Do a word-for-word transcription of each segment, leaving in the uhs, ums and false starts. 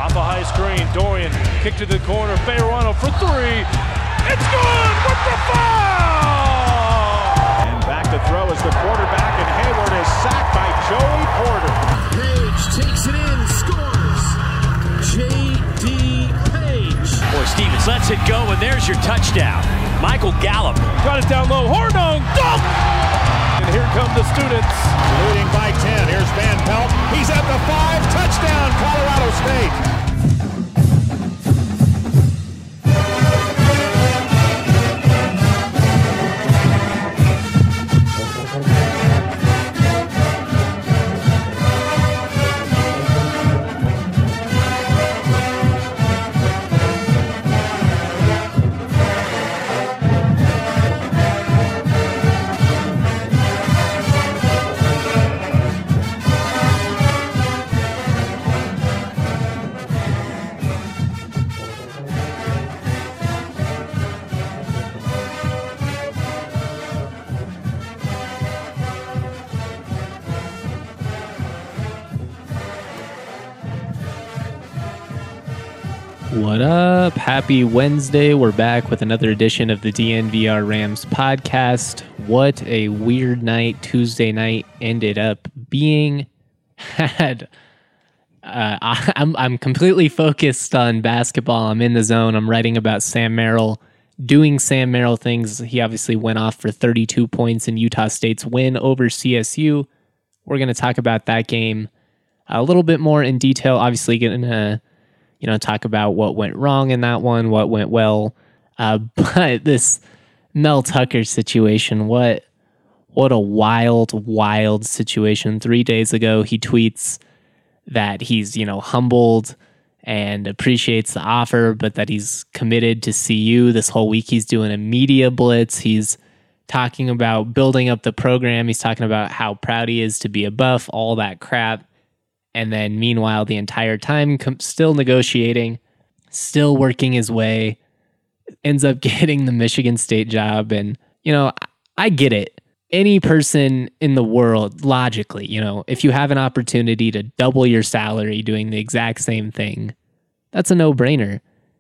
Off a high screen, Dorian kick to the corner, Fayerano for three. It's good with the foul! And back to throw is the quarterback, and Hayward is sacked by Joey Porter. Page takes it in, scores. J D. Page. Boy, Stevens lets it go, and there's your touchdown. Michael Gallup. Got it down low, Hornung, dunk! And here come the students. Leading by ten, here's Van Pelt. He's at the five, touchdown, Colorado State. What up? Happy Wednesday. We're back with another edition of the D N V R Rams podcast. What a weird night Tuesday night ended up being. Had uh, I, I'm I'm completely focused on basketball. I'm in the zone. I'm writing about Sam Merrill, doing Sam Merrill things. He obviously went off for thirty-two points in Utah State's win over C S U. We're going to talk about that game a little bit more in detail. Obviously, going to you know, talk about what went wrong in that one, what went well. Uh, but this Mel Tucker situation, what what a wild, wild situation. Three days ago, he tweets that he's, you know, humbled and appreciates the offer, but that he's committed to C U. This whole week, he's doing a media blitz. He's talking about building up the program. He's talking about how proud he is to be a Buff, all that crap. And then meanwhile, the entire time, com- still negotiating, still working his way, ends up getting the Michigan State job. And, you know, I, I get it. Any person in the world, logically, you know, if you have an opportunity to double your salary doing the exact same thing, that's a no-brainer.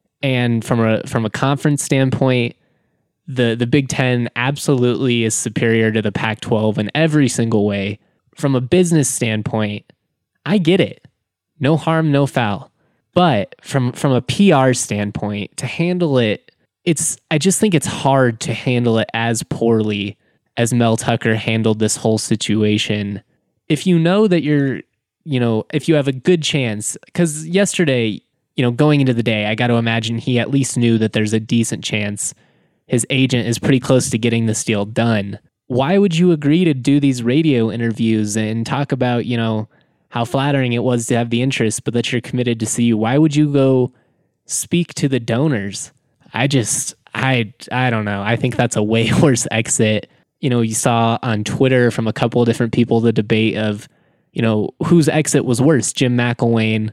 And from a from a conference standpoint, the, the Big Ten absolutely is superior to the Pac twelve in every single way. From a business standpoint, I get it. No harm, no foul. But from from a P R standpoint, to handle it, it's I just think it's hard to handle it as poorly as Mel Tucker handled this whole situation. If you know that you're, you know, if you have a good chance, because yesterday, you know, going into the day, I got to imagine he at least knew that there's a decent chance his agent is pretty close to getting this deal done. Why would you agree to do these radio interviews and talk about, you know, how flattering it was to have the interest, but that you're committed to C U? Why would you go speak to the donors? I just, I, I don't know. I think that's a way worse exit. You know, you saw on Twitter from a couple of different people the debate of, you know, whose exit was worse, Jim McElwain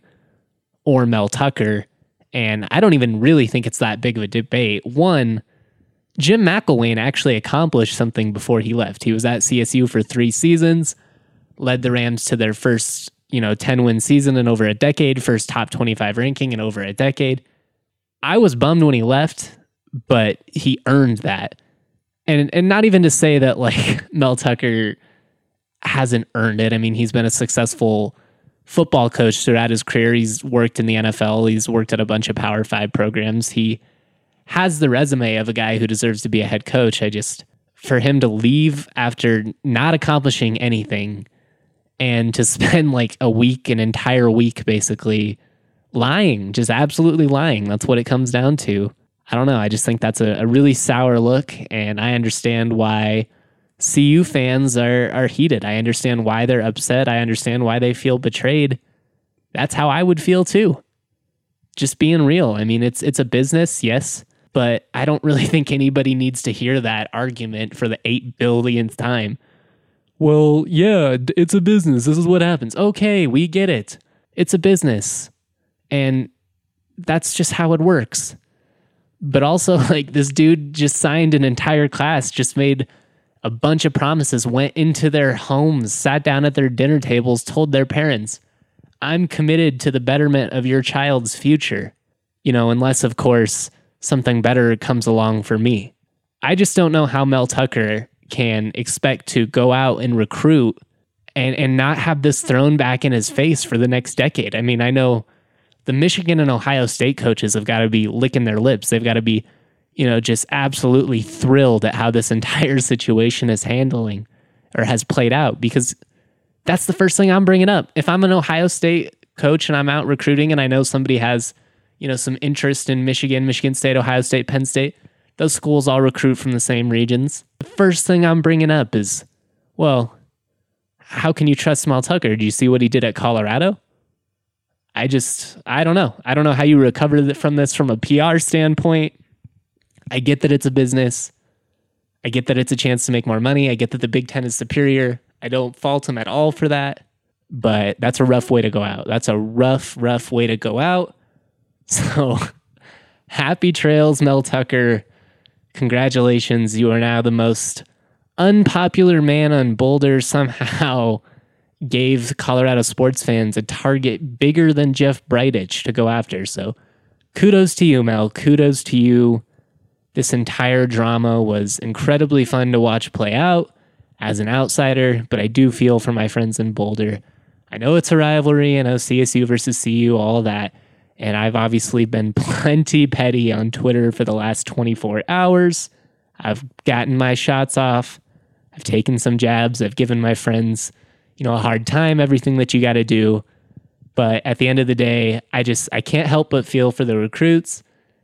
or Mel Tucker. And I don't even really think it's that big of a debate. One, Jim McElwain actually accomplished something before he left. He was at C S U for three seasons. Led the Rams to their first, you know, ten-win season in over a decade, first top twenty-five ranking in over a decade. I was bummed when he left, but he earned that. And and not even to say that, like, Mel Tucker hasn't earned it. I mean, he's been a successful football coach throughout his career. He's worked in the N F L. He's worked at a bunch of Power Five programs. He has the resume of a guy who deserves to be a head coach. I just, for him to leave after not accomplishing anything, and to spend like a week, an entire week, basically lying, just absolutely lying. That's what it comes down to. I don't know. I just think that's a, a really sour look, and I understand why C U fans are are heated. I understand why they're upset. I understand why they feel betrayed. That's how I would feel too. Just being real. I mean, it's it's a business, yes, but I don't really think anybody needs to hear that argument for the eight billionth time. Well, yeah, it's a business. This is what happens. Okay, we get it. It's a business. And that's just how it works. But also, like, this dude just signed an entire class, just made a bunch of promises, went into their homes, sat down at their dinner tables, told their parents, I'm committed to the betterment of your child's future, you know, unless, of course, something better comes along for me. I just don't know how Mel Tucker can expect to go out and recruit and, and not have this thrown back in his face for the next decade. I mean, I know the Michigan and Ohio State coaches have got to be licking their lips. They've got to be, you know, just absolutely thrilled at how this entire situation is handling or has played out, because that's the first thing I'm bringing up. If I'm an Ohio State coach and I'm out recruiting and I know somebody has, you know, some interest in Michigan, Michigan State, Ohio State, Penn State, those schools all recruit from the same regions. The first thing I'm bringing up is, well, how can you trust Mel Tucker? Do you see what he did at Colorado? I just, I don't know. I don't know how you recover from this from a P R standpoint. I get that it's a business. I get that it's a chance to make more money. I get that the Big Ten is superior. I don't fault him at all for that, but that's a rough way to go out. That's a rough, rough way to go out. So happy trails, Mel Tucker. Congratulations. You are now the most unpopular man on Boulder. Somehow gave Colorado sports fans a target bigger than Jeff Bridich to go after. So kudos to you, Mel. Kudos to you. This entire drama was incredibly fun to watch play out as an outsider, but I do feel for my friends in Boulder. I know it's a rivalry. I know C S U versus C U, all of that. And I've obviously been plenty petty on Twitter for the last twenty-four hours. I've gotten my shots off. I've taken some jabs. I've given my friends, you know, a hard time, everything that you got to do. But at the end of the day, I just, I can't help but feel for the recruits.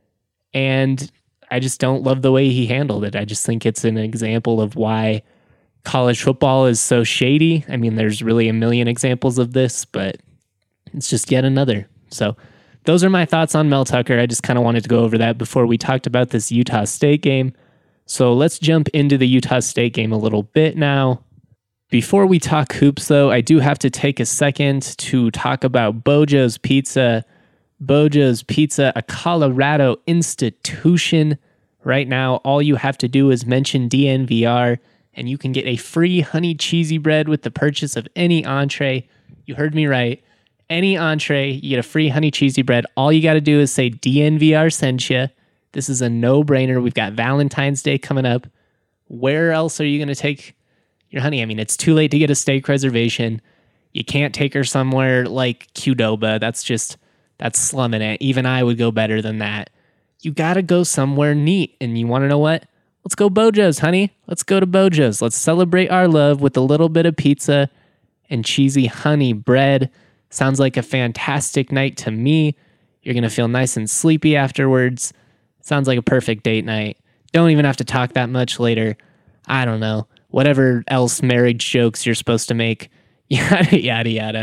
And I just don't love the way he handled it. I just think it's an example of why college football is so shady. I mean, there's really a million examples of this, but it's just yet another. So those are my thoughts on Mel Tucker. I just kind of wanted to go over that before we talked about this Utah State game. So let's jump into the Utah State game a little bit now. Before we talk hoops, though, I do have to take a second to talk about Bojo's Pizza. Bojo's Pizza, a Colorado institution. Right now, all you have to do is mention D N V R, and you can get a free honey cheesy bread with the purchase of any entree. You heard me right. Any entree, you get a free honey cheesy bread. All you got to do is say D N V R sent you. This is a no-brainer. We've got Valentine's Day coming up. Where else are you going to take your honey? I mean, it's too late to get a steak reservation. You can't take her somewhere like Qdoba. That's just, that's slumming it. Even I would go better than that. You got to go somewhere neat. And you want to know what? Let's go Bojo's, honey. Let's go to Bojo's. Let's celebrate our love with a little bit of pizza and cheesy honey bread. Sounds like a fantastic night to me. You're going to feel nice and sleepy afterwards. Sounds like a perfect date night. Don't even have to talk that much later. I don't know. Whatever else marriage jokes you're supposed to make. Yada, yada, yada.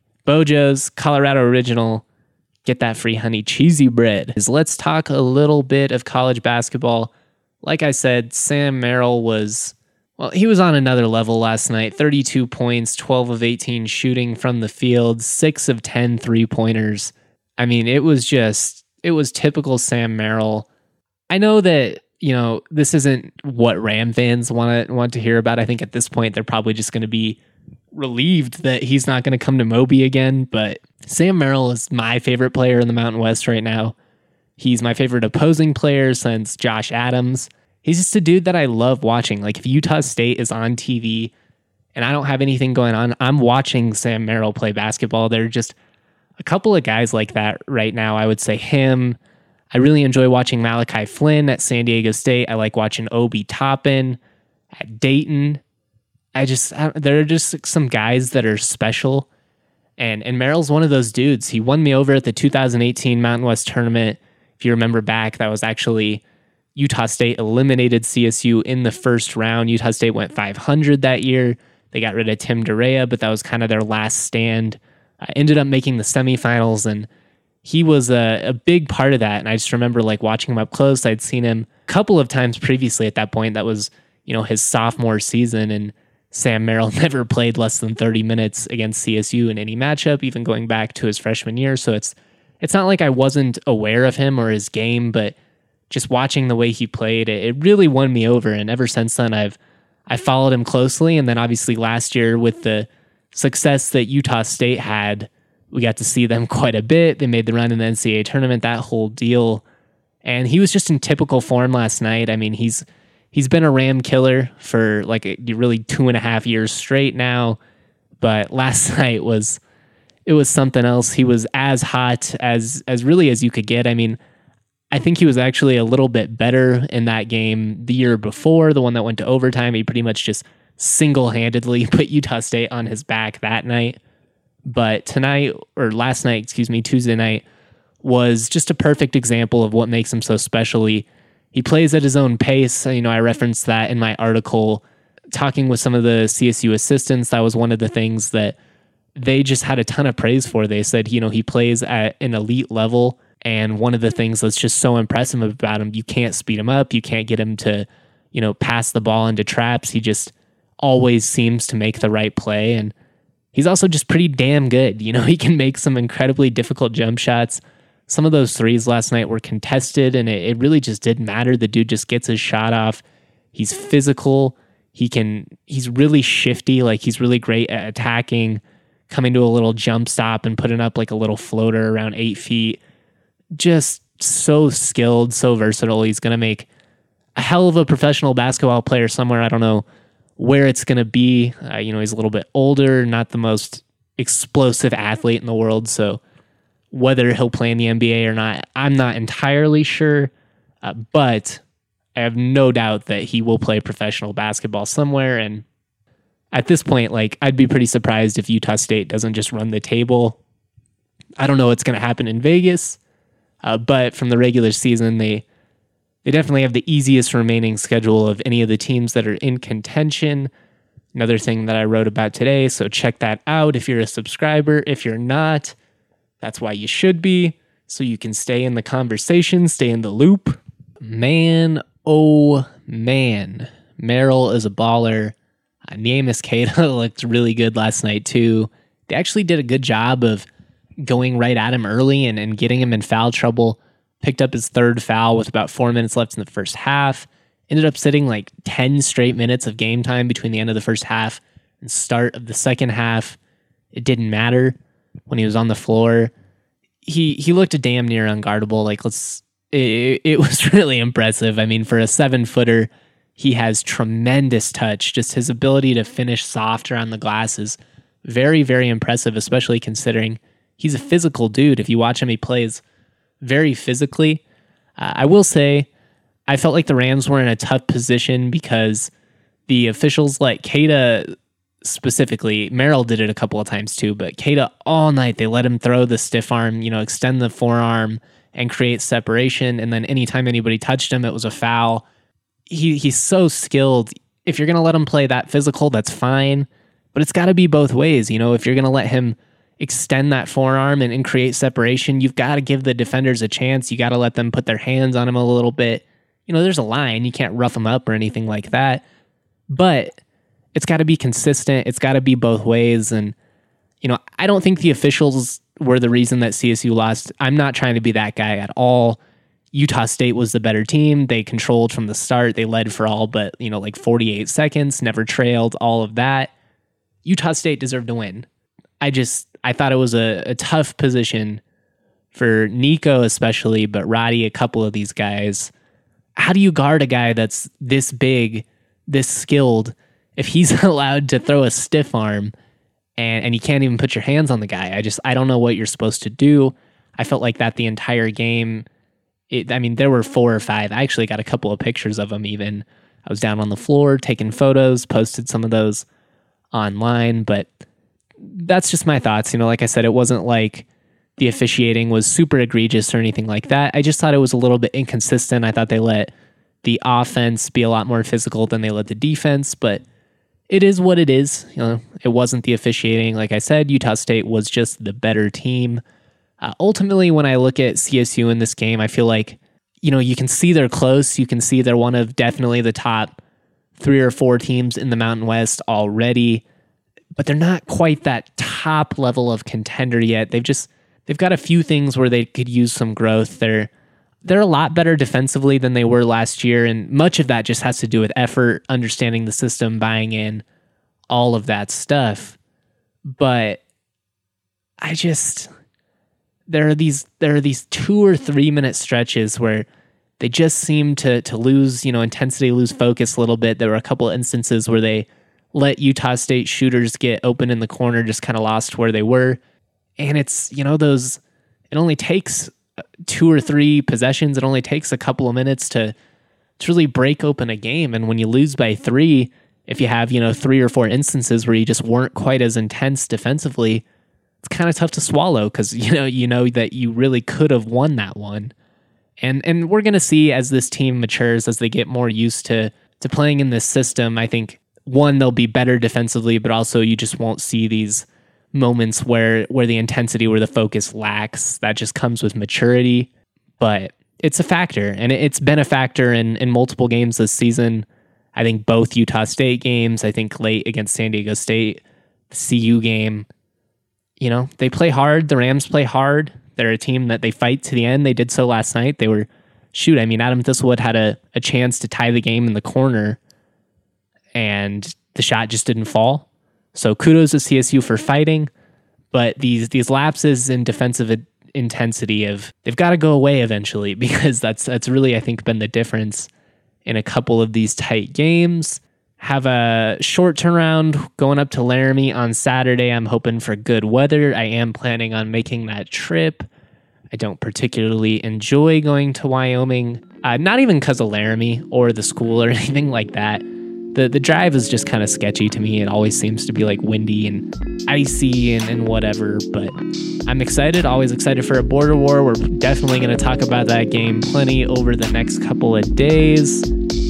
Bojo's, Colorado original. Get that free honey cheesy bread. Let's talk a little bit of college basketball. Like I said, Sam Merrill was, well, he was on another level last night. thirty-two points, twelve of eighteen shooting from the field, six of ten three-pointers. I mean, it was just, it was typical Sam Merrill. I know that, you know, this isn't what Ram fans want to want to hear about. I think at this point, they're probably just going to be relieved that he's not going to come to Moby again. But Sam Merrill is my favorite player in the Mountain West right now. He's my favorite opposing player since Josh Adams. He's just a dude that I love watching. Like, if Utah State is on T V and I don't have anything going on, I'm watching Sam Merrill play basketball. There are just a couple of guys like that right now. I would say him. I really enjoy watching Malachi Flynn at San Diego State. I like watching Obi Toppin at Dayton. I just, I, there are just some guys that are special. And, and Merrill's one of those dudes. He won me over at the two thousand eighteen Mountain West tournament. If you remember back, that was actually Utah State eliminated C S U in the first round. Utah State went five hundred that year. They got rid of Tim Durea, but that was kind of their last stand. Uh, ended up making the semifinals, and he was a, a big part of that. And I just remember like watching him up close. I'd seen him a couple of times previously at that point. That was, you know, his sophomore season, and Sam Merrill never played less than thirty minutes against C S U in any matchup, even going back to his freshman year. So it's it's not like I wasn't aware of him or his game, but just watching the way he played, it, it really won me over. And ever since then, I've I followed him closely. And then obviously last year with the success that Utah State had, We got to see them quite a bit. They made the run in the N C double A tournament, that whole deal. And he was just in typical form last night. I mean, he's he's been a Ram killer for like a, really two and a half years straight now. But last night was it was something else. He was as hot as as really as you could get. I mean, I think he was actually a little bit better in that game the year before, the one that went to overtime. He pretty much just single-handedly put Utah State on his back that night. But tonight, or last night, excuse me, Tuesday night, was just a perfect example of what makes him so special. He, he plays at his own pace. You know, I referenced that in my article. Talking with some of the C S U assistants, that was one of the things that they just had a ton of praise for. They said, you know, he plays at an elite level, and one of the things that's just so impressive about him, you can't speed him up, you can't get him to, you know, pass the ball into traps. He just always seems to make the right play, and he's also just pretty damn good. You know, he can make some incredibly difficult jump shots. Some of those threes last night were contested, and it, it really just didn't matter. The dude just gets his shot off. He's physical. He can, he's really shifty. Like, he's really great at attacking, coming to a little jump stop and putting up like a little floater around eight feet. Just so skilled, so versatile. He's going to make a hell of a professional basketball player somewhere. I don't know where it's going to be. Uh, you know, he's a little bit older, not the most explosive athlete in the world. So whether he'll play in the N B A or not, I'm not entirely sure. Uh, but I have no doubt that he will play professional basketball somewhere. And at this point, like, I'd be pretty surprised if Utah State doesn't just run the table. I don't know what's going to happen in Vegas, uh, but from the regular season, they They definitely have the easiest remaining schedule of any of the teams that are in contention. Another thing that I wrote about today, so check that out if you're a subscriber. If you're not, that's why you should be, so you can stay in the conversation, stay in the loop. Man, oh man, Merrill is a baller. Uh, Neemias Queta looked really good last night too. They actually did a good job of going right at him early and, and getting him in foul trouble. Picked up his third foul with about four minutes left in the first half. Ended up sitting like ten straight minutes of game time between the end of the first half and start of the second half. It didn't matter when he was on the floor. He he looked a damn near unguardable. Like, let's. It, it was really impressive. I mean, for a seven footer, he has tremendous touch. Just his ability to finish soft around the glass is very, very impressive, especially considering he's a physical dude. If you watch him, he plays very physically. Uh, I will say, I felt like the Rams were in a tough position because the officials, like Queta specifically, Merrill did it a couple of times too, but Queta all night, they let him throw the stiff arm, you know, extend the forearm and create separation. And then anytime anybody touched him, it was a foul. He He's so skilled. If you're going to let him play that physical, that's fine, but it's got to be both ways. You know, if you're going to let him extend that forearm and, and create separation, you've got to give the defenders a chance. You got to let them put their hands on him a little bit. You know, there's a line. You can't rough them up or anything like that. But it's got to be consistent. It's got to be both ways. And, you know, I don't think the officials were the reason that C S U lost. I'm not trying to be that guy at all. Utah State was the better team. They controlled from the start. They led for all but, you know, like forty-eight seconds, never trailed, all of that. Utah State deserved to win. I just, I thought it was a, a tough position for Nico especially, but Roddy, a couple of these guys. How do you guard a guy that's this big, this skilled, if he's allowed to throw a stiff arm and, and you can't even put your hands on the guy? I just, I don't know what you're supposed to do. I felt like that the entire game. It, I mean, there were four or five. I actually got a couple of pictures of them even. I was down on the floor taking photos, posted some of those online, but that's just my thoughts. You know, like I said, it wasn't like the officiating was super egregious or anything like that. I just thought it was a little bit inconsistent. I thought they let the offense be a lot more physical than they let the defense, but it is what it is. You know, it wasn't the officiating. Like I said, Utah State was just the better team. Uh, ultimately, when I look at C S U in this game, I feel like, you know, you can see they're close. You can see they're one of definitely the top three or four teams in the Mountain West already, but they're not quite that top level of contender yet. They've just, they've got a few things where they could use some growth. They're, they're a lot better defensively than they were last year, and much of that just has to do with effort, understanding the system, buying in, all of that stuff. But I just there are these there are these two or three minute stretches where they just seem to to lose, you know, intensity, lose focus a little bit. There were a couple of instances where they let Utah State shooters get open in the corner, just kind of lost where they were. And it's, you know, those, it only takes two or three possessions. It only takes a couple of minutes to, to really break open a game. And when you lose by three, if you have, you know, three or four instances where you just weren't quite as intense defensively, it's kind of tough to swallow because, you know, you know that you really could have won that one. And and we're going to see as this team matures, as they get more used to to playing in this system, I think, one, they'll be better defensively, but also you just won't see these moments where where the intensity, where the focus lacks. That just comes with maturity. But it's a factor, and it's been a factor in, in multiple games this season. I think both Utah State games, I think late against San Diego State, the C U game, you know, they play hard. The Rams play hard. They're a team that they fight to the end. They did so last night. They were, shoot, I mean, Adam Thistlewood had a, a chance to tie the game in the corner, and the shot just didn't fall. So kudos to C S U for fighting, but these these lapses in defensive intensity of they've got to go away eventually, because that's that's really, I think, been the difference in a couple of these tight games. Have a short turnaround going up to Laramie on Saturday. I'm hoping for good weather. I am planning on making that trip. I don't particularly enjoy going to Wyoming, uh, not even because of Laramie or the school or anything like that. The the drive is just kind of sketchy to me. It always seems to be like windy and icy and, and whatever, but I'm excited, always excited for a border war. We're definitely going to talk about that game plenty over the next couple of days.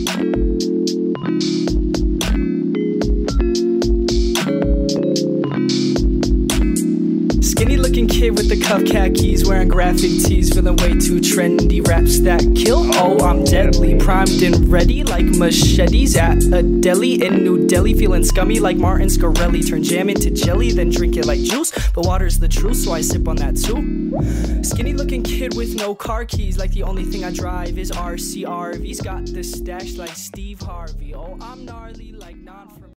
Skinny looking kid with the cuff khakis, wearing graphic tees, feeling way too trendy. Raps that kill, oh I'm deadly, primed and ready like machetes at a deli in New Delhi. Feeling scummy like Martin Scarelli, turn jam into jelly, then drink it like juice. But water's the truth, so I sip on that too. Skinny looking kid with no car keys, like the only thing I drive is R C R Vs. Got the stash like Steve Harvey, oh I'm gnarly like non from